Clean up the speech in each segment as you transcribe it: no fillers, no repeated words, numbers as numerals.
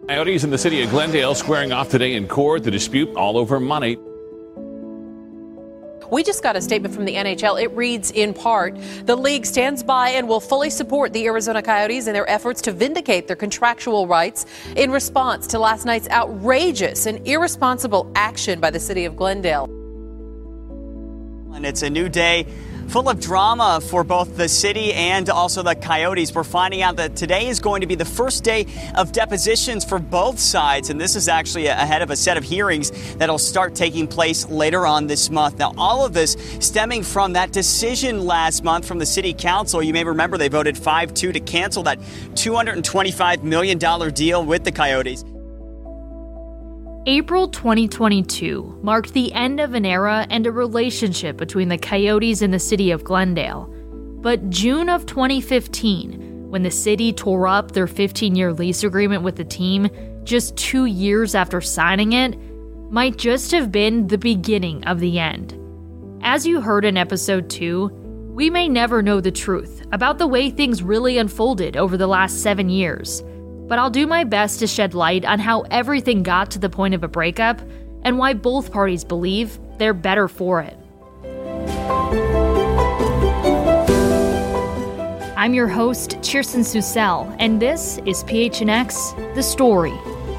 Coyotes in the city of Glendale squaring off today in court, the dispute all over money. We just got a statement from the NHL. It reads in part, the league stands by and will fully support the Arizona Coyotes in their efforts to vindicate their contractual rights in response to last night's outrageous and irresponsible action by the city of Glendale. And it's a new day full of drama for both the city and also the Coyotes. We're finding out that today is going to be the first day of depositions for both sides, and this is actually ahead of a set of hearings that'll start taking place later on this month. Now, all of this stemming from that decision last month from the city council. You may remember they voted 5-2 to cancel that $225 million deal with the Coyotes. April 2022 marked the end of an era and a relationship between the Coyotes and the city of Glendale. But June of 2015, when the city tore up their 15-year lease agreement with the team just 2 years after signing it, might just have been the beginning of the end. As you heard in episode 2, we may never know the truth about the way things really unfolded over the last 7 years. But I'll do my best to shed light on how everything got to the point of a breakup and why both parties believe they're better for it. I'm your host, Kirsten Susel, and this is PHNX The Story.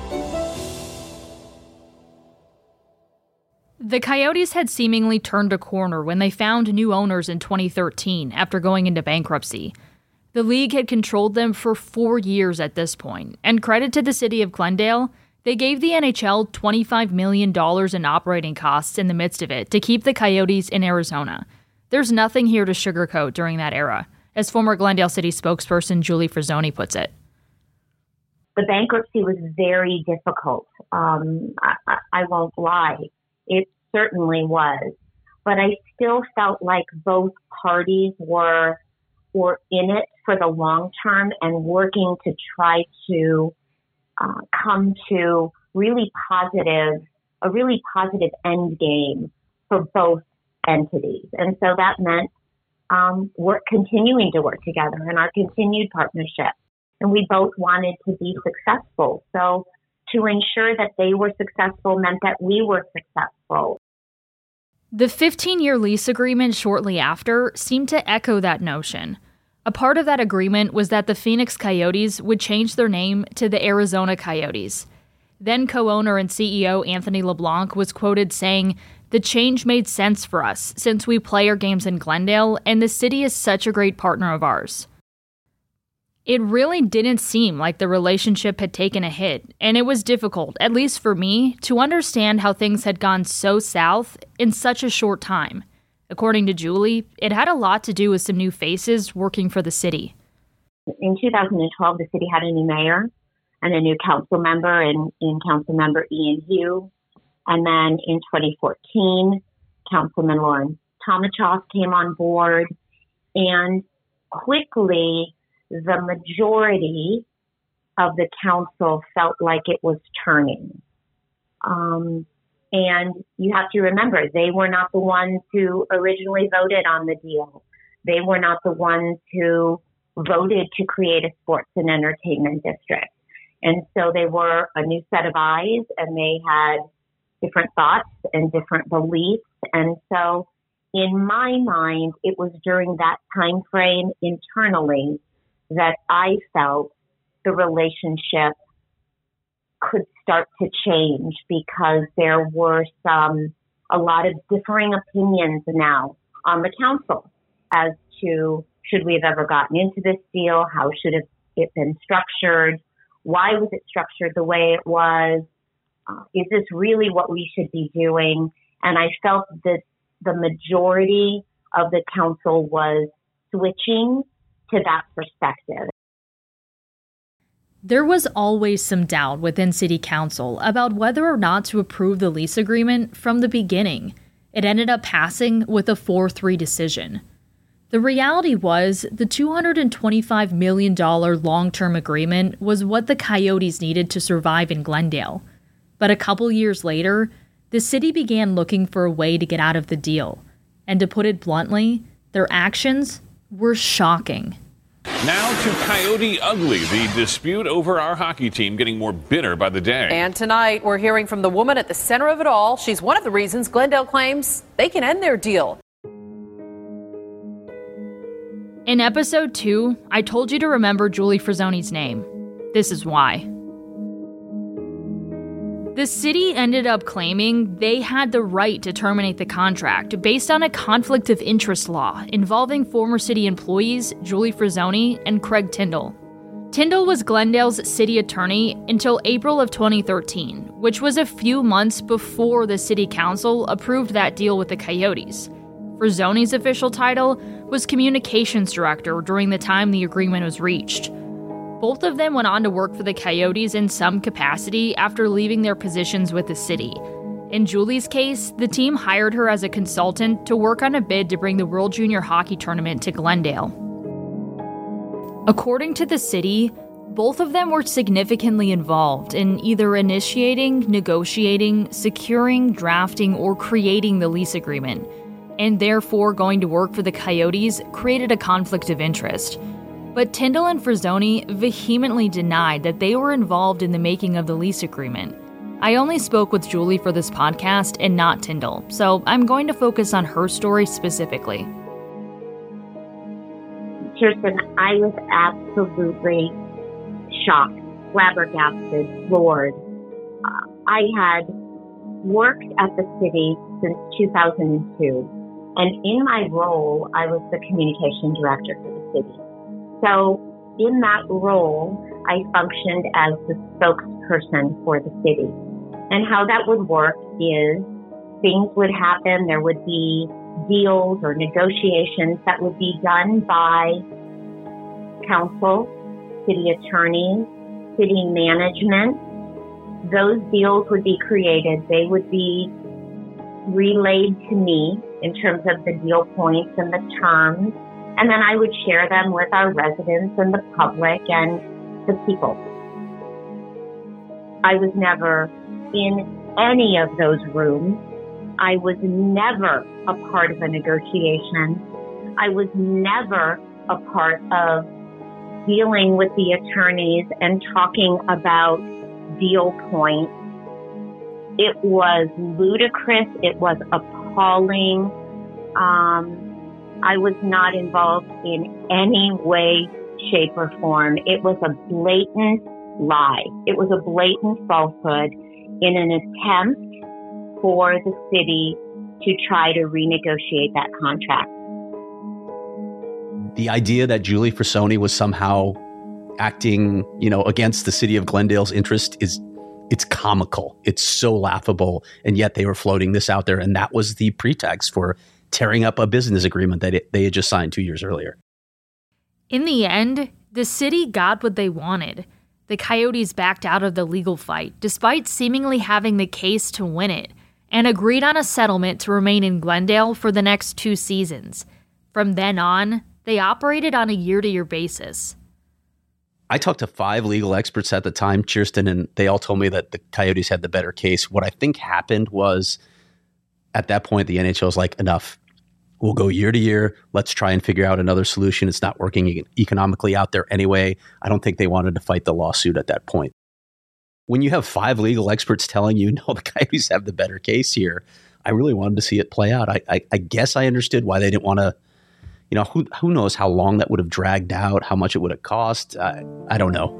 The Coyotes had seemingly turned a corner when they found new owners in 2013 after going into bankruptcy. The league had controlled them for 4 years at this point, and credit to the city of Glendale, they gave the NHL $25 million in operating costs in the midst of it to keep the Coyotes in Arizona. There's nothing here to sugarcoat during that era, as former Glendale City spokesperson Julie Frazzoni puts it. The bankruptcy was very difficult. I won't lie. It certainly was. But I still felt like both parties were in it for the long term and working to try to come to a really positive end game for both entities. And so that meant we're continuing to work together in our continued partnership. And we both wanted to be successful. So to ensure that they were successful meant that we were successful. The 15-year lease agreement shortly after seemed to echo that notion. A part of that agreement was that the Phoenix Coyotes would change their name to the Arizona Coyotes. Then co-owner and CEO Anthony LeBlanc was quoted saying, "The change made sense for us since we play our games in Glendale and the city is such a great partner of ours." It really didn't seem like the relationship had taken a hit, and it was difficult, at least for me, to understand how things had gone so south in such a short time. According to Julie, it had a lot to do with some new faces working for the city. In 2012, the city had a new mayor and a new council member in council member Ian Hugh. And then in 2014, Councilman Lauren Tomachoff came on board, and quickly the majority of the council felt like it was turning. And you have to remember, they were not the ones who originally voted on the deal. They were not the ones who voted to create a sports and entertainment district. And so they were a new set of eyes, and they had different thoughts and different beliefs. And so in my mind, it was during that time frame internally that I felt the relationship could start to change, because there were a lot of differing opinions now on the council as to should we have ever gotten into this deal? How should it been structured? Why was it structured the way it was? Is this really what we should be doing? And I felt that the majority of the council was switching to that perspective. There was always some doubt within City Council about whether or not to approve the lease agreement from the beginning. It ended up passing with a 4-3 decision. The reality was the $225 million long-term agreement was what the Coyotes needed to survive in Glendale. But a couple years later, the city began looking for a way to get out of the deal. And to put it bluntly, their actions were shocking. Now to Coyote Ugly, the dispute over our hockey team getting more bitter by the day. And tonight, we're hearing from the woman at the center of it all. She's one of the reasons Glendale claims they can end their deal. In episode 2, I told you to remember Julie Frazzoni's name. This is why. The city ended up claiming they had the right to terminate the contract based on a conflict of interest law involving former city employees Julie Frazzoni and Craig Tyndall. Tyndall was Glendale's city attorney until April of 2013, which was a few months before the city council approved that deal with the Coyotes. Frazzoni's official title was communications director during the time the agreement was reached. Both of them went on to work for the Coyotes in some capacity after leaving their positions with the city. In Julie's case, the team hired her as a consultant to work on a bid to bring the World Junior Hockey Tournament to Glendale. According to the city, both of them were significantly involved in either initiating, negotiating, securing, drafting, or creating the lease agreement, and therefore going to work for the Coyotes created a conflict of interest. But Tyndall and Frazzoni vehemently denied that they were involved in the making of the lease agreement. I only spoke with Julie for this podcast and not Tyndall, so I'm going to focus on her story specifically. Kirsten, I was absolutely shocked, flabbergasted, floored. I had worked at the city since 2002, and in my role, I was the communication director for the city. So in that role, I functioned as the spokesperson for the city. And how that would work is things would happen. There would be deals or negotiations that would be done by council, city attorneys, city management. Those deals would be created. They would be relayed to me in terms of the deal points and the terms. And then I would share them with our residents and the public and the people. I was never in any of those rooms. I was never a part of a negotiation. I was never a part of dealing with the attorneys and talking about deal points. It was ludicrous. It was appalling. I was not involved in any way, shape, or form. It was a blatant lie. It was a blatant falsehood in an attempt for the city to try to renegotiate that contract. The idea that Julie Frazzoni was somehow acting, against the city of Glendale's interest it's comical. It's so laughable. And yet they were floating this out there. And that was the pretext for tearing up a business agreement that they had just signed 2 years earlier. In the end, the city got what they wanted. The Coyotes backed out of the legal fight, despite seemingly having the case to win it, and agreed on a settlement to remain in Glendale for the next 2 seasons. From then on, they operated on a year-to-year basis. I talked to 5 legal experts at the time, Kirsten, and they all told me that the Coyotes had the better case. What I think happened was, at that point, the NHL was like, enough. We'll go year to year. Let's try and figure out another solution. It's not working economically out there anyway. I don't think they wanted to fight the lawsuit at that point. When you have 5 legal experts telling you, no, the Coyotes have the better case here, I really wanted to see it play out. I guess I understood why they didn't want to, who knows how long that would have dragged out, how much it would have cost. I don't know.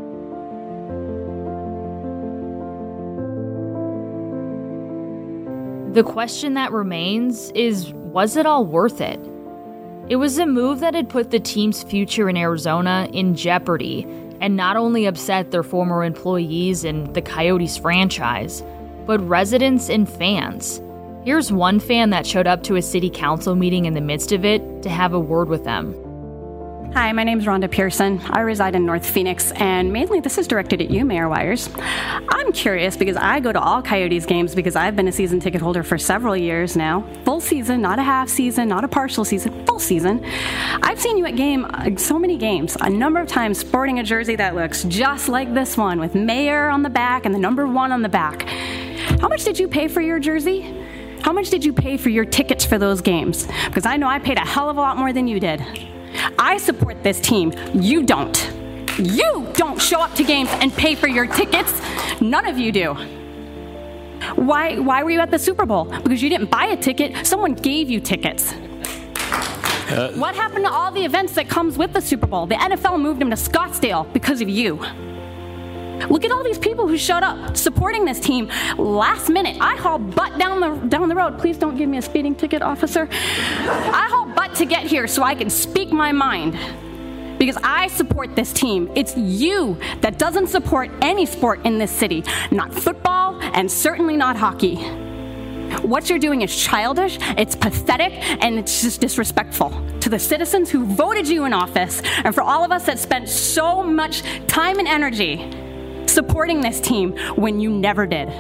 The question that remains is, was it all worth it? It was a move that had put the team's future in Arizona in jeopardy and not only upset their former employees and the Coyotes franchise, but residents and fans. Here's one fan that showed up to a city council meeting in the midst of it to have a word with them. Hi, my name's Rhonda Pearson. I reside in North Phoenix, and mainly this is directed at you, Mayor Wires. I'm curious because I go to all Coyotes games because I've been a season ticket holder for several years now. Full season, not a half season, not a partial season, full season. I've seen you at so many games, a number of times sporting a jersey that looks just like this one with Mayor on the back and the number 1 on the back. How much did you pay for your jersey? How much did you pay for your tickets for those games? Because I know I paid a hell of a lot more than you did. I support this team. You don't. You don't show up to games and pay for your tickets. None of you do. Why were you at the Super Bowl? Because you didn't buy a ticket. Someone gave you tickets. What happened to all the events that comes with the Super Bowl? The NFL moved them to Scottsdale because of you. Look at all these people who showed up supporting this team last minute. I haul butt down the road. Please don't give me a speeding ticket, officer. I haul butt to get here so I can speak my mind. Because I support this team. It's you that doesn't support any sport in this city. Not football, and certainly not hockey. What you're doing is childish, it's pathetic, and it's just disrespectful to the citizens who voted you in office, and for all of us that spent so much time and energy supporting this team when you never did.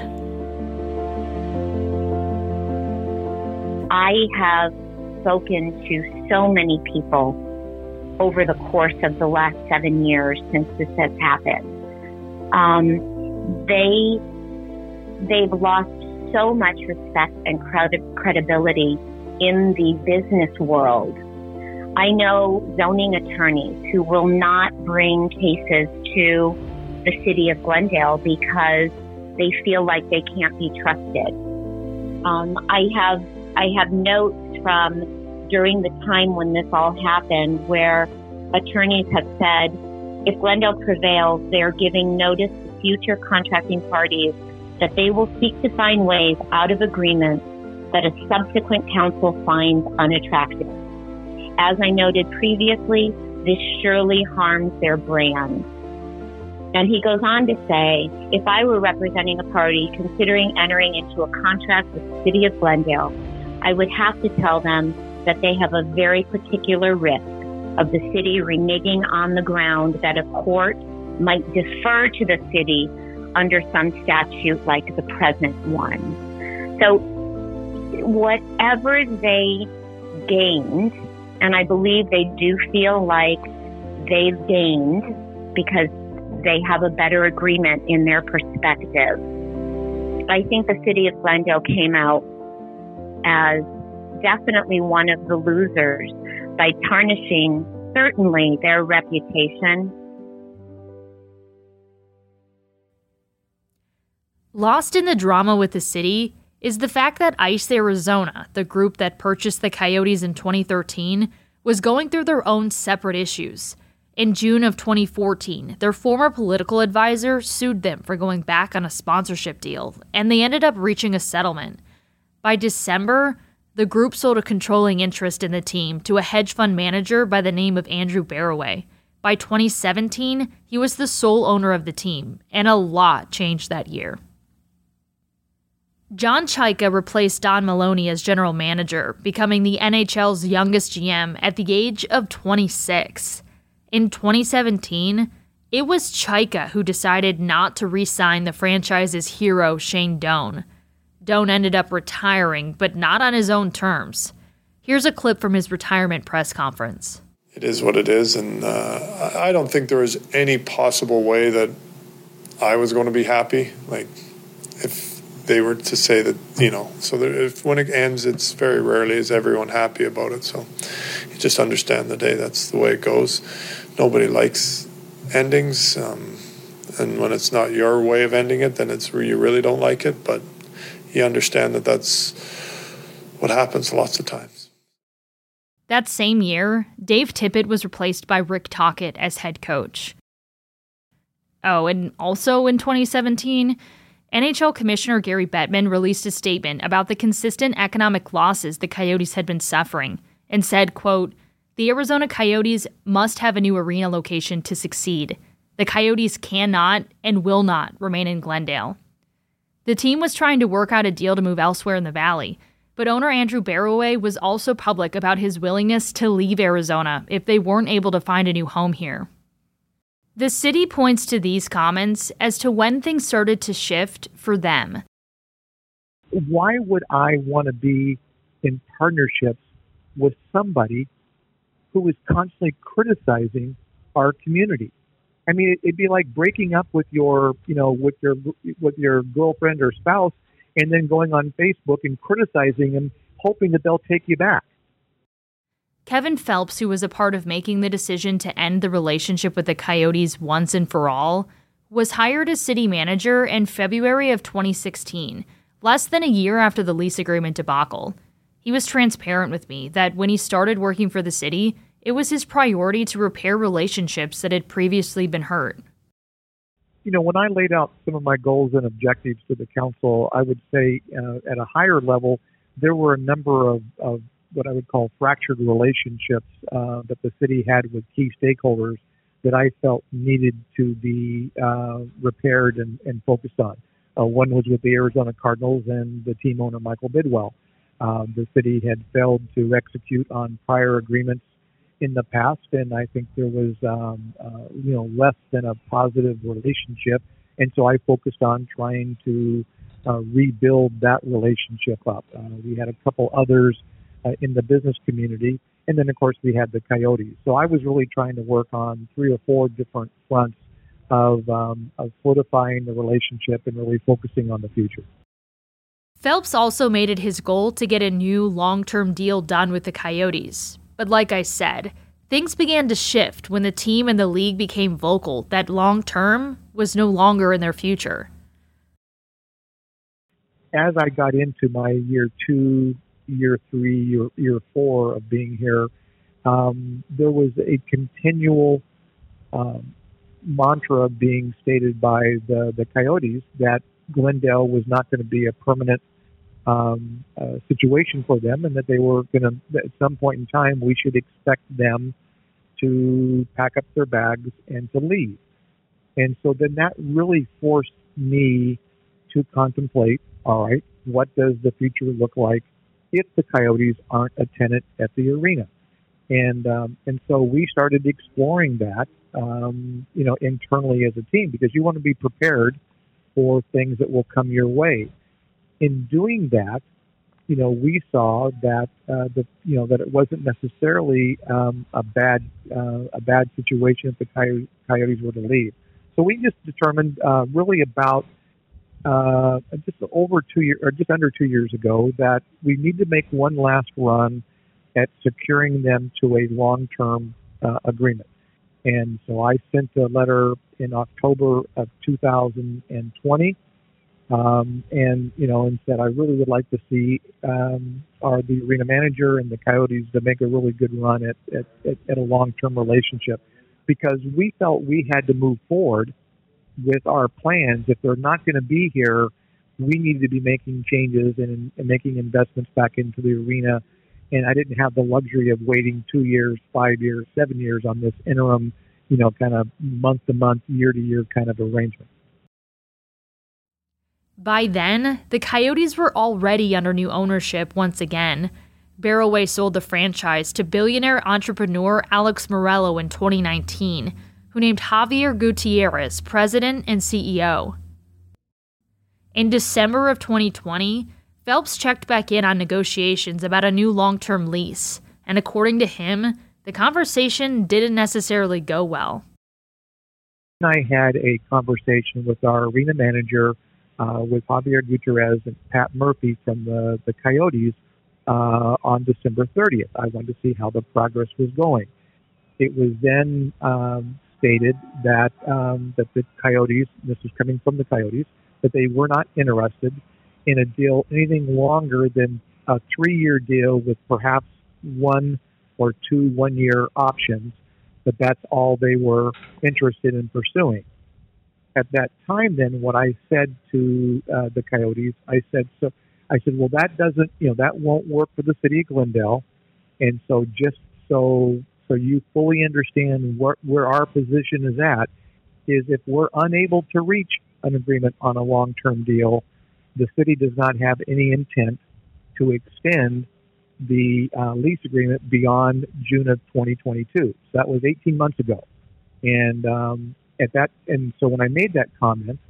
I have spoken to so many people over the course of the last 7 years since this has happened. They've lost so much respect and credibility in the business world. I know zoning attorneys who will not bring cases to the city of Glendale because they feel like they can't be trusted. I have notes from during the time when this all happened where attorneys have said if Glendale prevails, they're giving notice to future contracting parties that they will seek to find ways out of agreements that a subsequent council finds unattractive. As I noted previously, this surely harms their brand. And he goes on to say, if I were representing a party considering entering into a contract with the city of Glendale, I would have to tell them that they have a very particular risk of the city reneging on the ground that a court might defer to the city under some statute like the present one. So whatever they gained, and I believe they do feel like they've gained because they have a better agreement in their perspective. I think the city of Glendale came out as definitely one of the losers by tarnishing certainly their reputation. Lost in the drama with the city is the fact that ICE Arizona, the group that purchased the Coyotes in 2013, was going through their own separate issues. In June of 2014, their former political advisor sued them for going back on a sponsorship deal, and they ended up reaching a settlement. By December, the group sold a controlling interest in the team to a hedge fund manager by the name of Andrew Barroway. By 2017, he was the sole owner of the team, and a lot changed that year. John Chayka replaced Don Maloney as general manager, becoming the NHL's youngest GM at the age of 26. In 2017, it was Chayka who decided not to re-sign the franchise's hero, Shane Doan. Doan ended up retiring, but not on his own terms. Here's a clip from his retirement press conference. It is what it is, and I don't think there was any possible way that I was going to be happy. Like, if they were to say that, if when it ends, it's very rarely is everyone happy about it. So you just understand the day. That's the way it goes. Nobody likes endings, and when it's not your way of ending it, then it's where you really don't like it. But you understand that that's what happens lots of times. That same year, Dave Tippett was replaced by Rick Tocchet as head coach. Oh, and also in 2017, NHL Commissioner Gary Bettman released a statement about the consistent economic losses the Coyotes had been suffering and said, quote, "The Arizona Coyotes must have a new arena location to succeed. The Coyotes cannot and will not remain in Glendale." The team was trying to work out a deal to move elsewhere in the Valley, but owner Andrew Barroway was also public about his willingness to leave Arizona if they weren't able to find a new home here. The city points to these comments as to when things started to shift for them. Why would I want to be in partnerships with somebody who is constantly criticizing our community? I mean, it'd be like breaking up with your girlfriend or spouse and then going on Facebook and criticizing them, hoping that they'll take you back. Kevin Phelps, who was a part of making the decision to end the relationship with the Coyotes once and for all, was hired as city manager in February of 2016, less than a year after the lease agreement debacle. He was transparent with me that when he started working for the city, it was his priority to repair relationships that had previously been hurt. When I laid out some of my goals and objectives to the council, I would say at a higher level, there were a number of what I would call fractured relationships that the city had with key stakeholders that I felt needed to be repaired and focused on. One was with the Arizona Cardinals and the team owner, Michael Bidwell. The city had failed to execute on prior agreements in the past, and I think there was, less than a positive relationship. And so I focused on trying to rebuild that relationship up. We had a couple others in the business community, and then, of course, we had the Coyotes. So I was really trying to work on 3 or 4 different fronts of fortifying the relationship and really focusing on the future. Phelps also made it his goal to get a new long-term deal done with the Coyotes. But like I said, things began to shift when the team and the league became vocal that long-term was no longer in their future. As I got into my year 2, year 3, year 4 of being here, there was a continual mantra being stated by the Coyotes that Glendale was not going to be a permanent situation for them, and that they were going to, at some point in time, we should expect them to pack up their bags and to leave. And so then that really forced me to contemplate, all right, what does the future look like if the Coyotes aren't a tenant at the arena? And so we started exploring that, internally as a team, because you want to be prepared for things that will come your way. In doing that, we saw that that it wasn't necessarily a bad situation if the Coyotes were to leave. So we just determined really about just over 2 years, or just under 2 years ago, that we need to make one last run at securing them to a long-term agreement. And so I sent a letter in October of 2020, and said I really would like to see the arena manager and the Coyotes to make a really good run at a long-term relationship, because we felt we had to move forward with our plans. If they're not going to be here, we needed to be making changes and making investments back into the arena. And I didn't have the luxury of waiting 2 years, 5 years, 7 years on this interim, kind of month-to-month, year-to-year kind of arrangement. By then, the Coyotes were already under new ownership once again. Barroway sold the franchise to billionaire entrepreneur Alex Morello in 2019, who named Javier Gutierrez president and CEO. In December of 2020, Phelps checked back in on negotiations about a new long-term lease, and according to him, the conversation didn't necessarily go well. I had a conversation with our arena manager, with Javier Gutierrez and Pat Murphy from the Coyotes on December 30th. I wanted to see how the progress was going. It was then stated that the Coyotes, this was coming from the Coyotes, that they were not interested in a deal anything longer than a 3-year deal with perhaps 1 or 2 one-year options, but that's all they were interested in pursuing. At that time, then, what I said to the Coyotes, I said, well, that doesn't, that won't work for the city of Glendale, and so just so you fully understand where our position is at, is if we're unable to reach an agreement on a long-term deal, the city does not have any intent to extend the lease agreement beyond June of 2022. So that was 18 months ago, and so when I made that comment,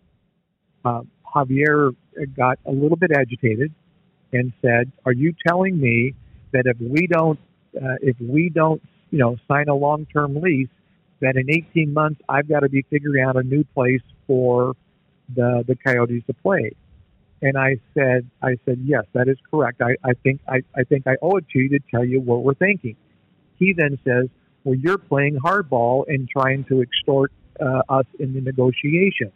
Javier got a little bit agitated and said, "Are you telling me that if we don't sign a long-term lease, that in 18 months I've got to be figuring out a new place for the Coyotes to play?" And I said, yes, that is correct. I think I owe it to you to tell you what we're thinking. he then says, well, you're playing hardball and trying to extort us in the negotiation.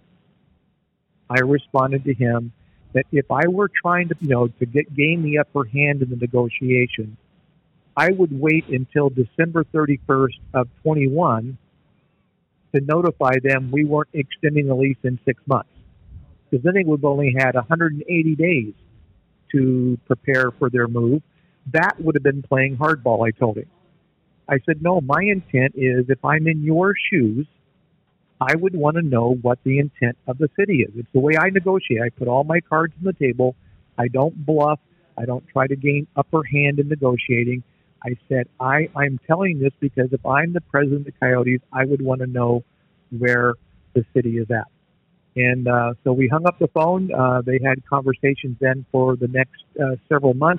I responded to him that if I were trying to, gain the upper hand in the negotiation, I would wait until December 31st of 21 to notify them we weren't extending the lease in 6 months. Because then they would have only had 180 days to prepare for their move. That would have been playing hardball, I told him. I said, no, my intent is if I'm in your shoes, I would want to know what the intent of the city is. It's the way I negotiate. I put all my cards on the table. I don't bluff. I don't try to gain upper hand in negotiating. I said, I'm telling this because if I'm the president of the Coyotes, I would want to know where the city is at. And so we hung up the phone. They had conversations then for the next several months.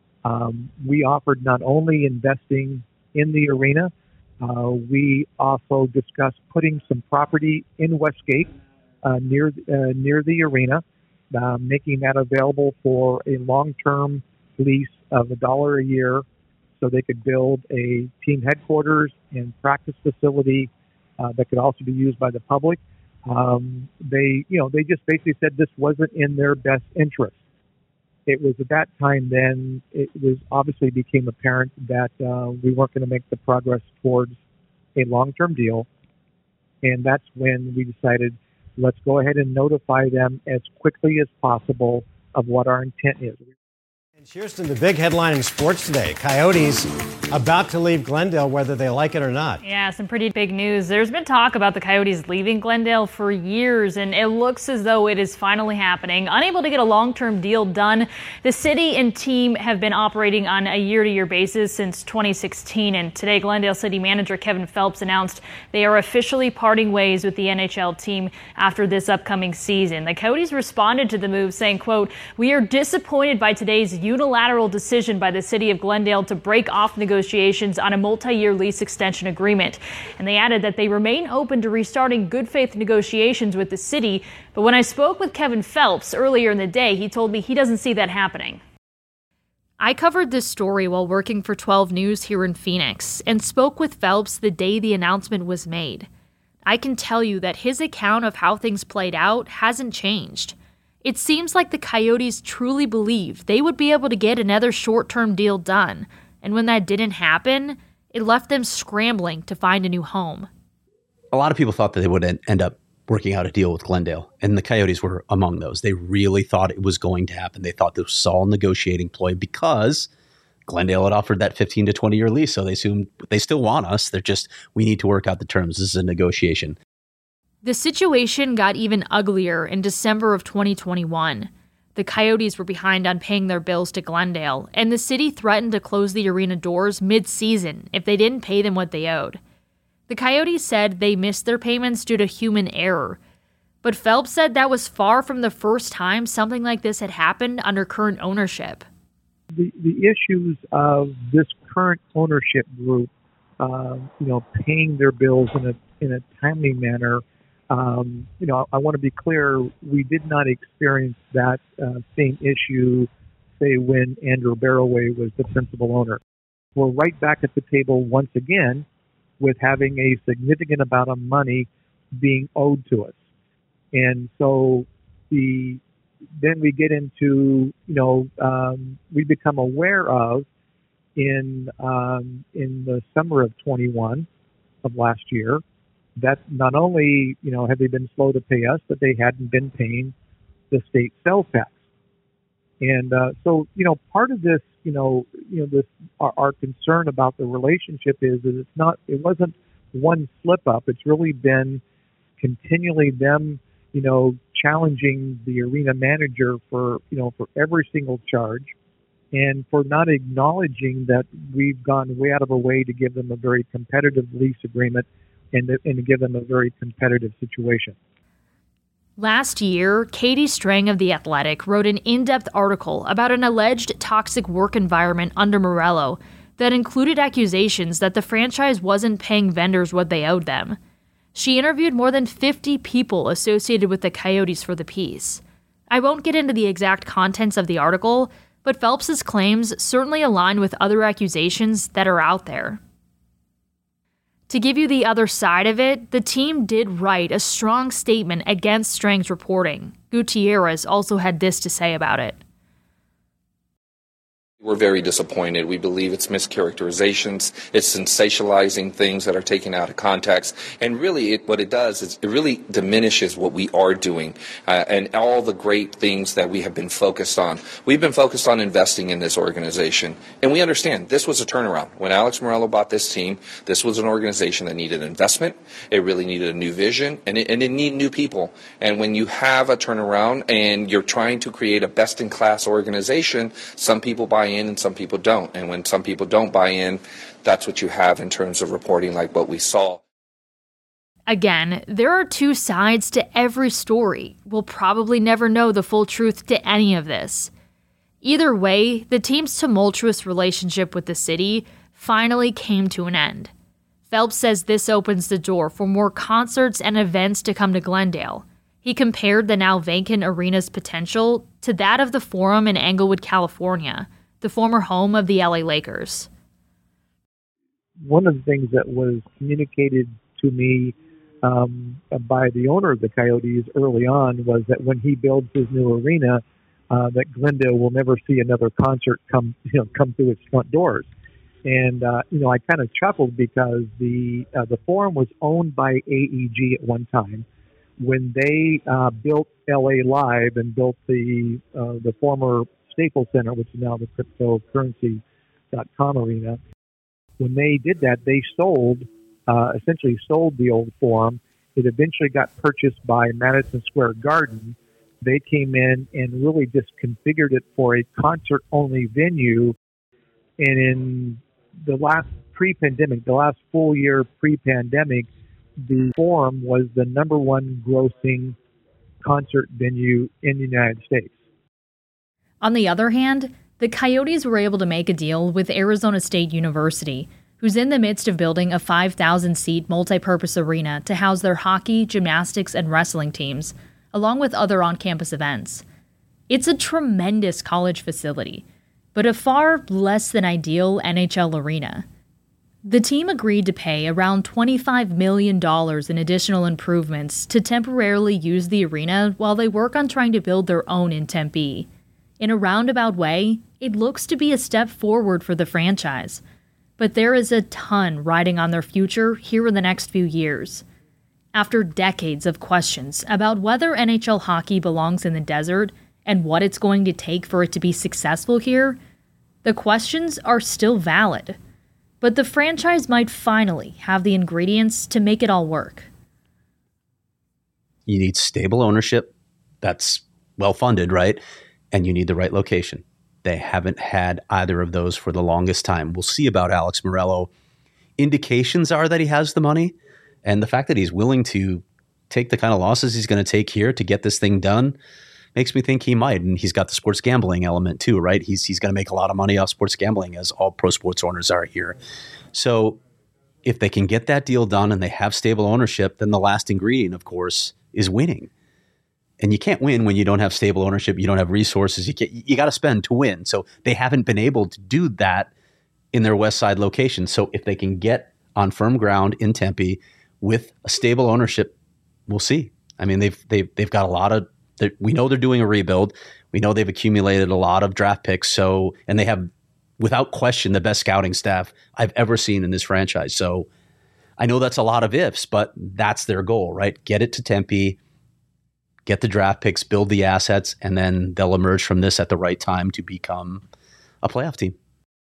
We offered not only investing in the arena, we also discussed putting some property in Westgate near the arena, making that available for a long-term lease of $1 a year, so they could build a team headquarters and practice facility that could also be used by the public. They just basically said this wasn't in their best interest. It was at that time then it was obviously became apparent that we weren't going to make the progress towards a long-term deal. And that's when we decided, let's go ahead and notify them as quickly as possible of what our intent is. And Kirsten, the big headline in sports today, Coyotes about to leave Glendale, whether they like it or not. Yeah, some pretty big news. There's been talk about the Coyotes leaving Glendale for years, and it looks as though it is finally happening. Unable to get a long-term deal done, the city and team have been operating on a year-to-year basis since 2016, and today Glendale City Manager Kevin Phelps announced they are officially parting ways with the NHL team after this upcoming season. The Coyotes responded to the move saying, quote, "We are disappointed by today's unilateral decision by the city of Glendale to break off negotiations on a multi-year lease extension agreement." And they added that they remain open to restarting good faith negotiations with the city. But when I spoke with Kevin Phelps earlier in the day, he told me he doesn't see that happening. I covered this story while working for 12 News here in Phoenix and spoke with Phelps the day the announcement was made. I can tell you that his account of how things played out hasn't changed. It seems like the Coyotes truly believed they would be able to get another short-term deal done, and when that didn't happen, it left them scrambling to find a new home. A lot of people thought that they would end up working out a deal with Glendale, and the Coyotes were among those. They really thought it was going to happen. They thought this was all a negotiating ploy because Glendale had offered that 15 to 20-year lease, so they assumed they still want us. They're just, we need to work out the terms. This is a negotiation. The situation got even uglier in December of 2021. The Coyotes were behind on paying their bills to Glendale, and the city threatened to close the arena doors mid-season if they didn't pay them what they owed. The Coyotes said they missed their payments due to human error, but Phelps said that was far from the first time something like this had happened under current ownership. The issues of this current ownership group, paying their bills in a timely manner. I want to be clear, we did not experience that same issue, say, when Andrew Barroway was the principal owner. We're right back at the table once again with having a significant amount of money being owed to us. And so then we get into, we become aware of in the summer of 21 of last year, that not only, had they been slow to pay us, but they hadn't been paying the state sales tax. And so, part of this, this our concern about the relationship is it wasn't one slip up. It's really been continually them, challenging the arena manager for every single charge, and for not acknowledging that we've gone way out of our way to give them a very competitive lease agreement and to give them a very competitive situation. Last year, Katie Strang of The Athletic wrote an in-depth article about an alleged toxic work environment under Morello that included accusations that the franchise wasn't paying vendors what they owed them. She interviewed more than 50 people associated with the Coyotes for the piece. I won't get into the exact contents of the article, but Phelps's claims certainly align with other accusations that are out there. To give you the other side of it, the team did write a strong statement against Strang's reporting. Gutierrez also had this to say about it. We're very disappointed. We believe it's mischaracterizations. It's sensationalizing things that are taken out of context. And really, what it does is it really diminishes what we are doing and all the great things that we have been focused on. We've been focused on investing in this organization. And we understand this was a turnaround. When Alex Meruelo bought this team, this was an organization that needed investment. It really needed a new vision, and it needed new people. And when you have a turnaround and you're trying to create a best-in-class organization, some people buy in and some people don't. And when some people don't buy in, that's what you have in terms of reporting like what we saw. Again, there are two sides to every story. We'll probably never know the full truth to any of this. Either way, the team's tumultuous relationship with the city finally came to an end. Phelps says this opens the door for more concerts and events to come to Glendale. He compared the now vacant arena's potential to that of the Forum in Englewood, California, the former home of the LA Lakers. One of the things that was communicated to me by the owner of the Coyotes early on was that when he builds his new arena, that Glendale will never see another concert come through its front doors. And I kind of chuckled because the Forum was owned by AEG at one time. When they built LA Live and built the former Staples Center, which is now the cryptocurrency.com arena, when they did that, they essentially sold the old Forum. It eventually got purchased by Madison Square Garden. They came in and really just configured it for a concert-only venue. And in the last pre-pandemic, the last full year pre-pandemic, the Forum was the number one grossing concert venue in the United States. On the other hand, the Coyotes were able to make a deal with Arizona State University, who's in the midst of building a 5,000-seat multi-purpose arena to house their hockey, gymnastics, and wrestling teams, along with other on-campus events. It's a tremendous college facility, but a far less than ideal NHL arena. The team agreed to pay around $25 million in additional improvements to temporarily use the arena while they work on trying to build their own in Tempe. In a roundabout way, it looks to be a step forward for the franchise, but there is a ton riding on their future here in the next few years. After decades of questions about whether NHL hockey belongs in the desert and what it's going to take for it to be successful here, the questions are still valid. But the franchise might finally have the ingredients to make it all work. You need stable ownership that's well-funded, right? And you need the right location. They haven't had either of those for the longest time. We'll see about Alex Meruelo. Indications are that he has the money, and the fact that he's willing to take the kind of losses he's going to take here to get this thing done makes me think he might. And he's got the sports gambling element too, right? He's going to make a lot of money off sports gambling, as all pro sports owners are here. So if they can get that deal done and they have stable ownership, then the last ingredient, of course, is winning. And you can't win when you don't have stable ownership. You don't have resources. You got to spend to win. So they haven't been able to do that in their West Side location. So if they can get on firm ground in Tempe with a stable ownership, we'll see. I mean, they've got a lot of. We know they're doing a rebuild. We know they've accumulated a lot of draft picks. And they have, without question, the best scouting staff I've ever seen in this franchise. So I know that's a lot of ifs, but that's their goal, right? Get it to Tempe. Get the draft picks, build the assets, and then they'll emerge from this at the right time to become a playoff team.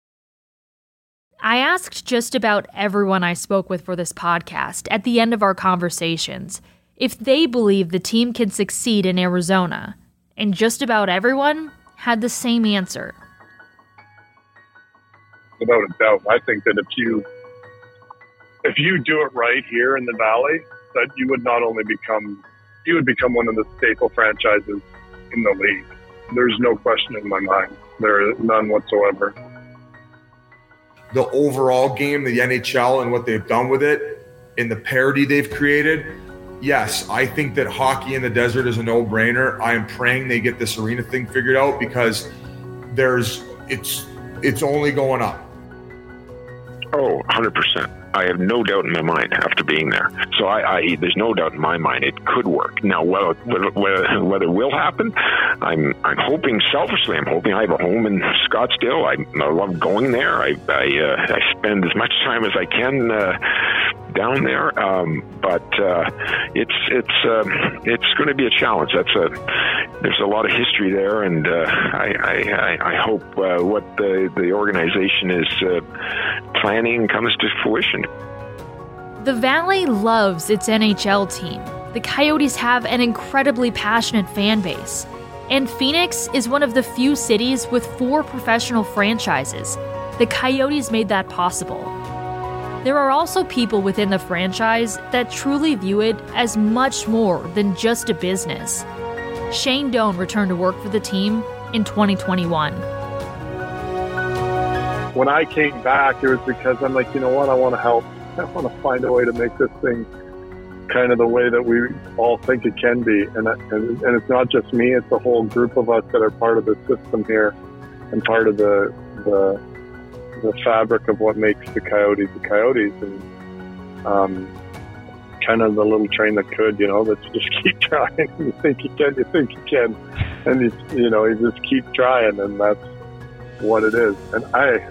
I asked just about everyone I spoke with for this podcast at the end of our conversations if they believe the team can succeed in Arizona, and just about everyone had the same answer. Without a doubt, I think that if you do it right here in the Valley, that you would not only become one of the staple franchises in the league. There's no question in my mind. There is none whatsoever. The overall game, the NHL and what they've done with it, and the parity they've created, yes, I think that hockey in the desert is a no-brainer. I am praying they get this arena thing figured out because it's only going up. Oh, 100%. I have no doubt in my mind after being there. So there's no doubt in my mind it could work. Now, whether it will happen, I'm hoping, selfishly, I'm hoping. I have a home in Scottsdale. I love going there. I spend as much time as I can down there. But it's going to be a challenge. There's a lot of history there, and I hope what the organization is planning comes to fruition. The Valley loves its NHL team. The Coyotes have an incredibly passionate fan base. And Phoenix is one of the few cities with 4 professional franchises. The Coyotes made that possible. There are also people within the franchise that truly view it as much more than just a business. Shane Doan returned to work for the team in 2021. When I came back, it was because I'm like, you know what, I want to help. I want to find a way to make this thing kind of the way that we all think it can be. And it's not just me, it's the whole group of us that are part of the system here and part of the fabric of what makes the Coyotes, and kind of the little train that could, let's just keep trying. You think you can, and you just keep trying, and that's what it is. And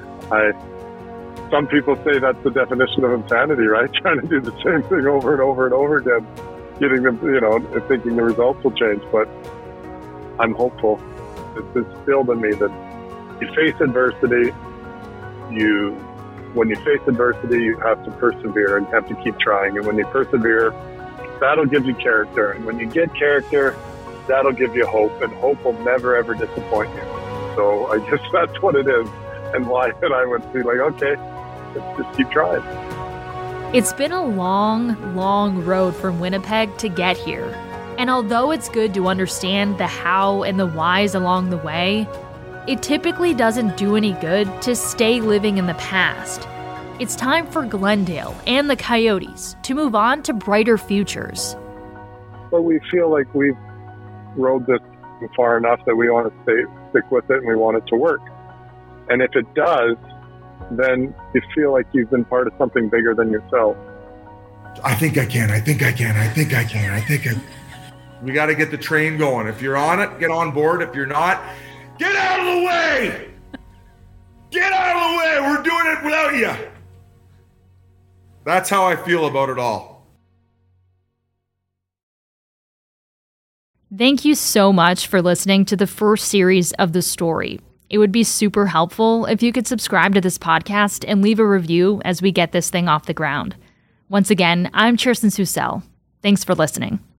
some people say that's the definition of insanity, right? Trying to do the same thing over and over and over again, getting them, thinking the results will change. But I'm hopeful. It's instilled in me that you face adversity. When you face adversity, you have to persevere and have to keep trying. And when you persevere, that'll give you character. And when you get character, that'll give you hope. And hope will never, ever disappoint you. So I guess that's what it is. And why I would be like, okay, let's just keep trying. It's been a long, long road from Winnipeg to get here. And although it's good to understand the how and the whys along the way, it typically doesn't do any good to stay living in the past. It's time for Glendale and the Coyotes to move on to brighter futures. But we feel like we've rode this far enough that we want to stick with it and we want it to work. And if it does, then you feel like you've been part of something bigger than yourself. I think I can. We got to get the train going. If you're on it, get on board. If you're not, get out of the way! Get out of the way! We're doing it without you. That's how I feel about it all. Thank you so much for listening to the first series of The Story. It would be super helpful if you could subscribe to this podcast and leave a review as we get this thing off the ground. Once again, I'm Kirsten Susel. Thanks for listening.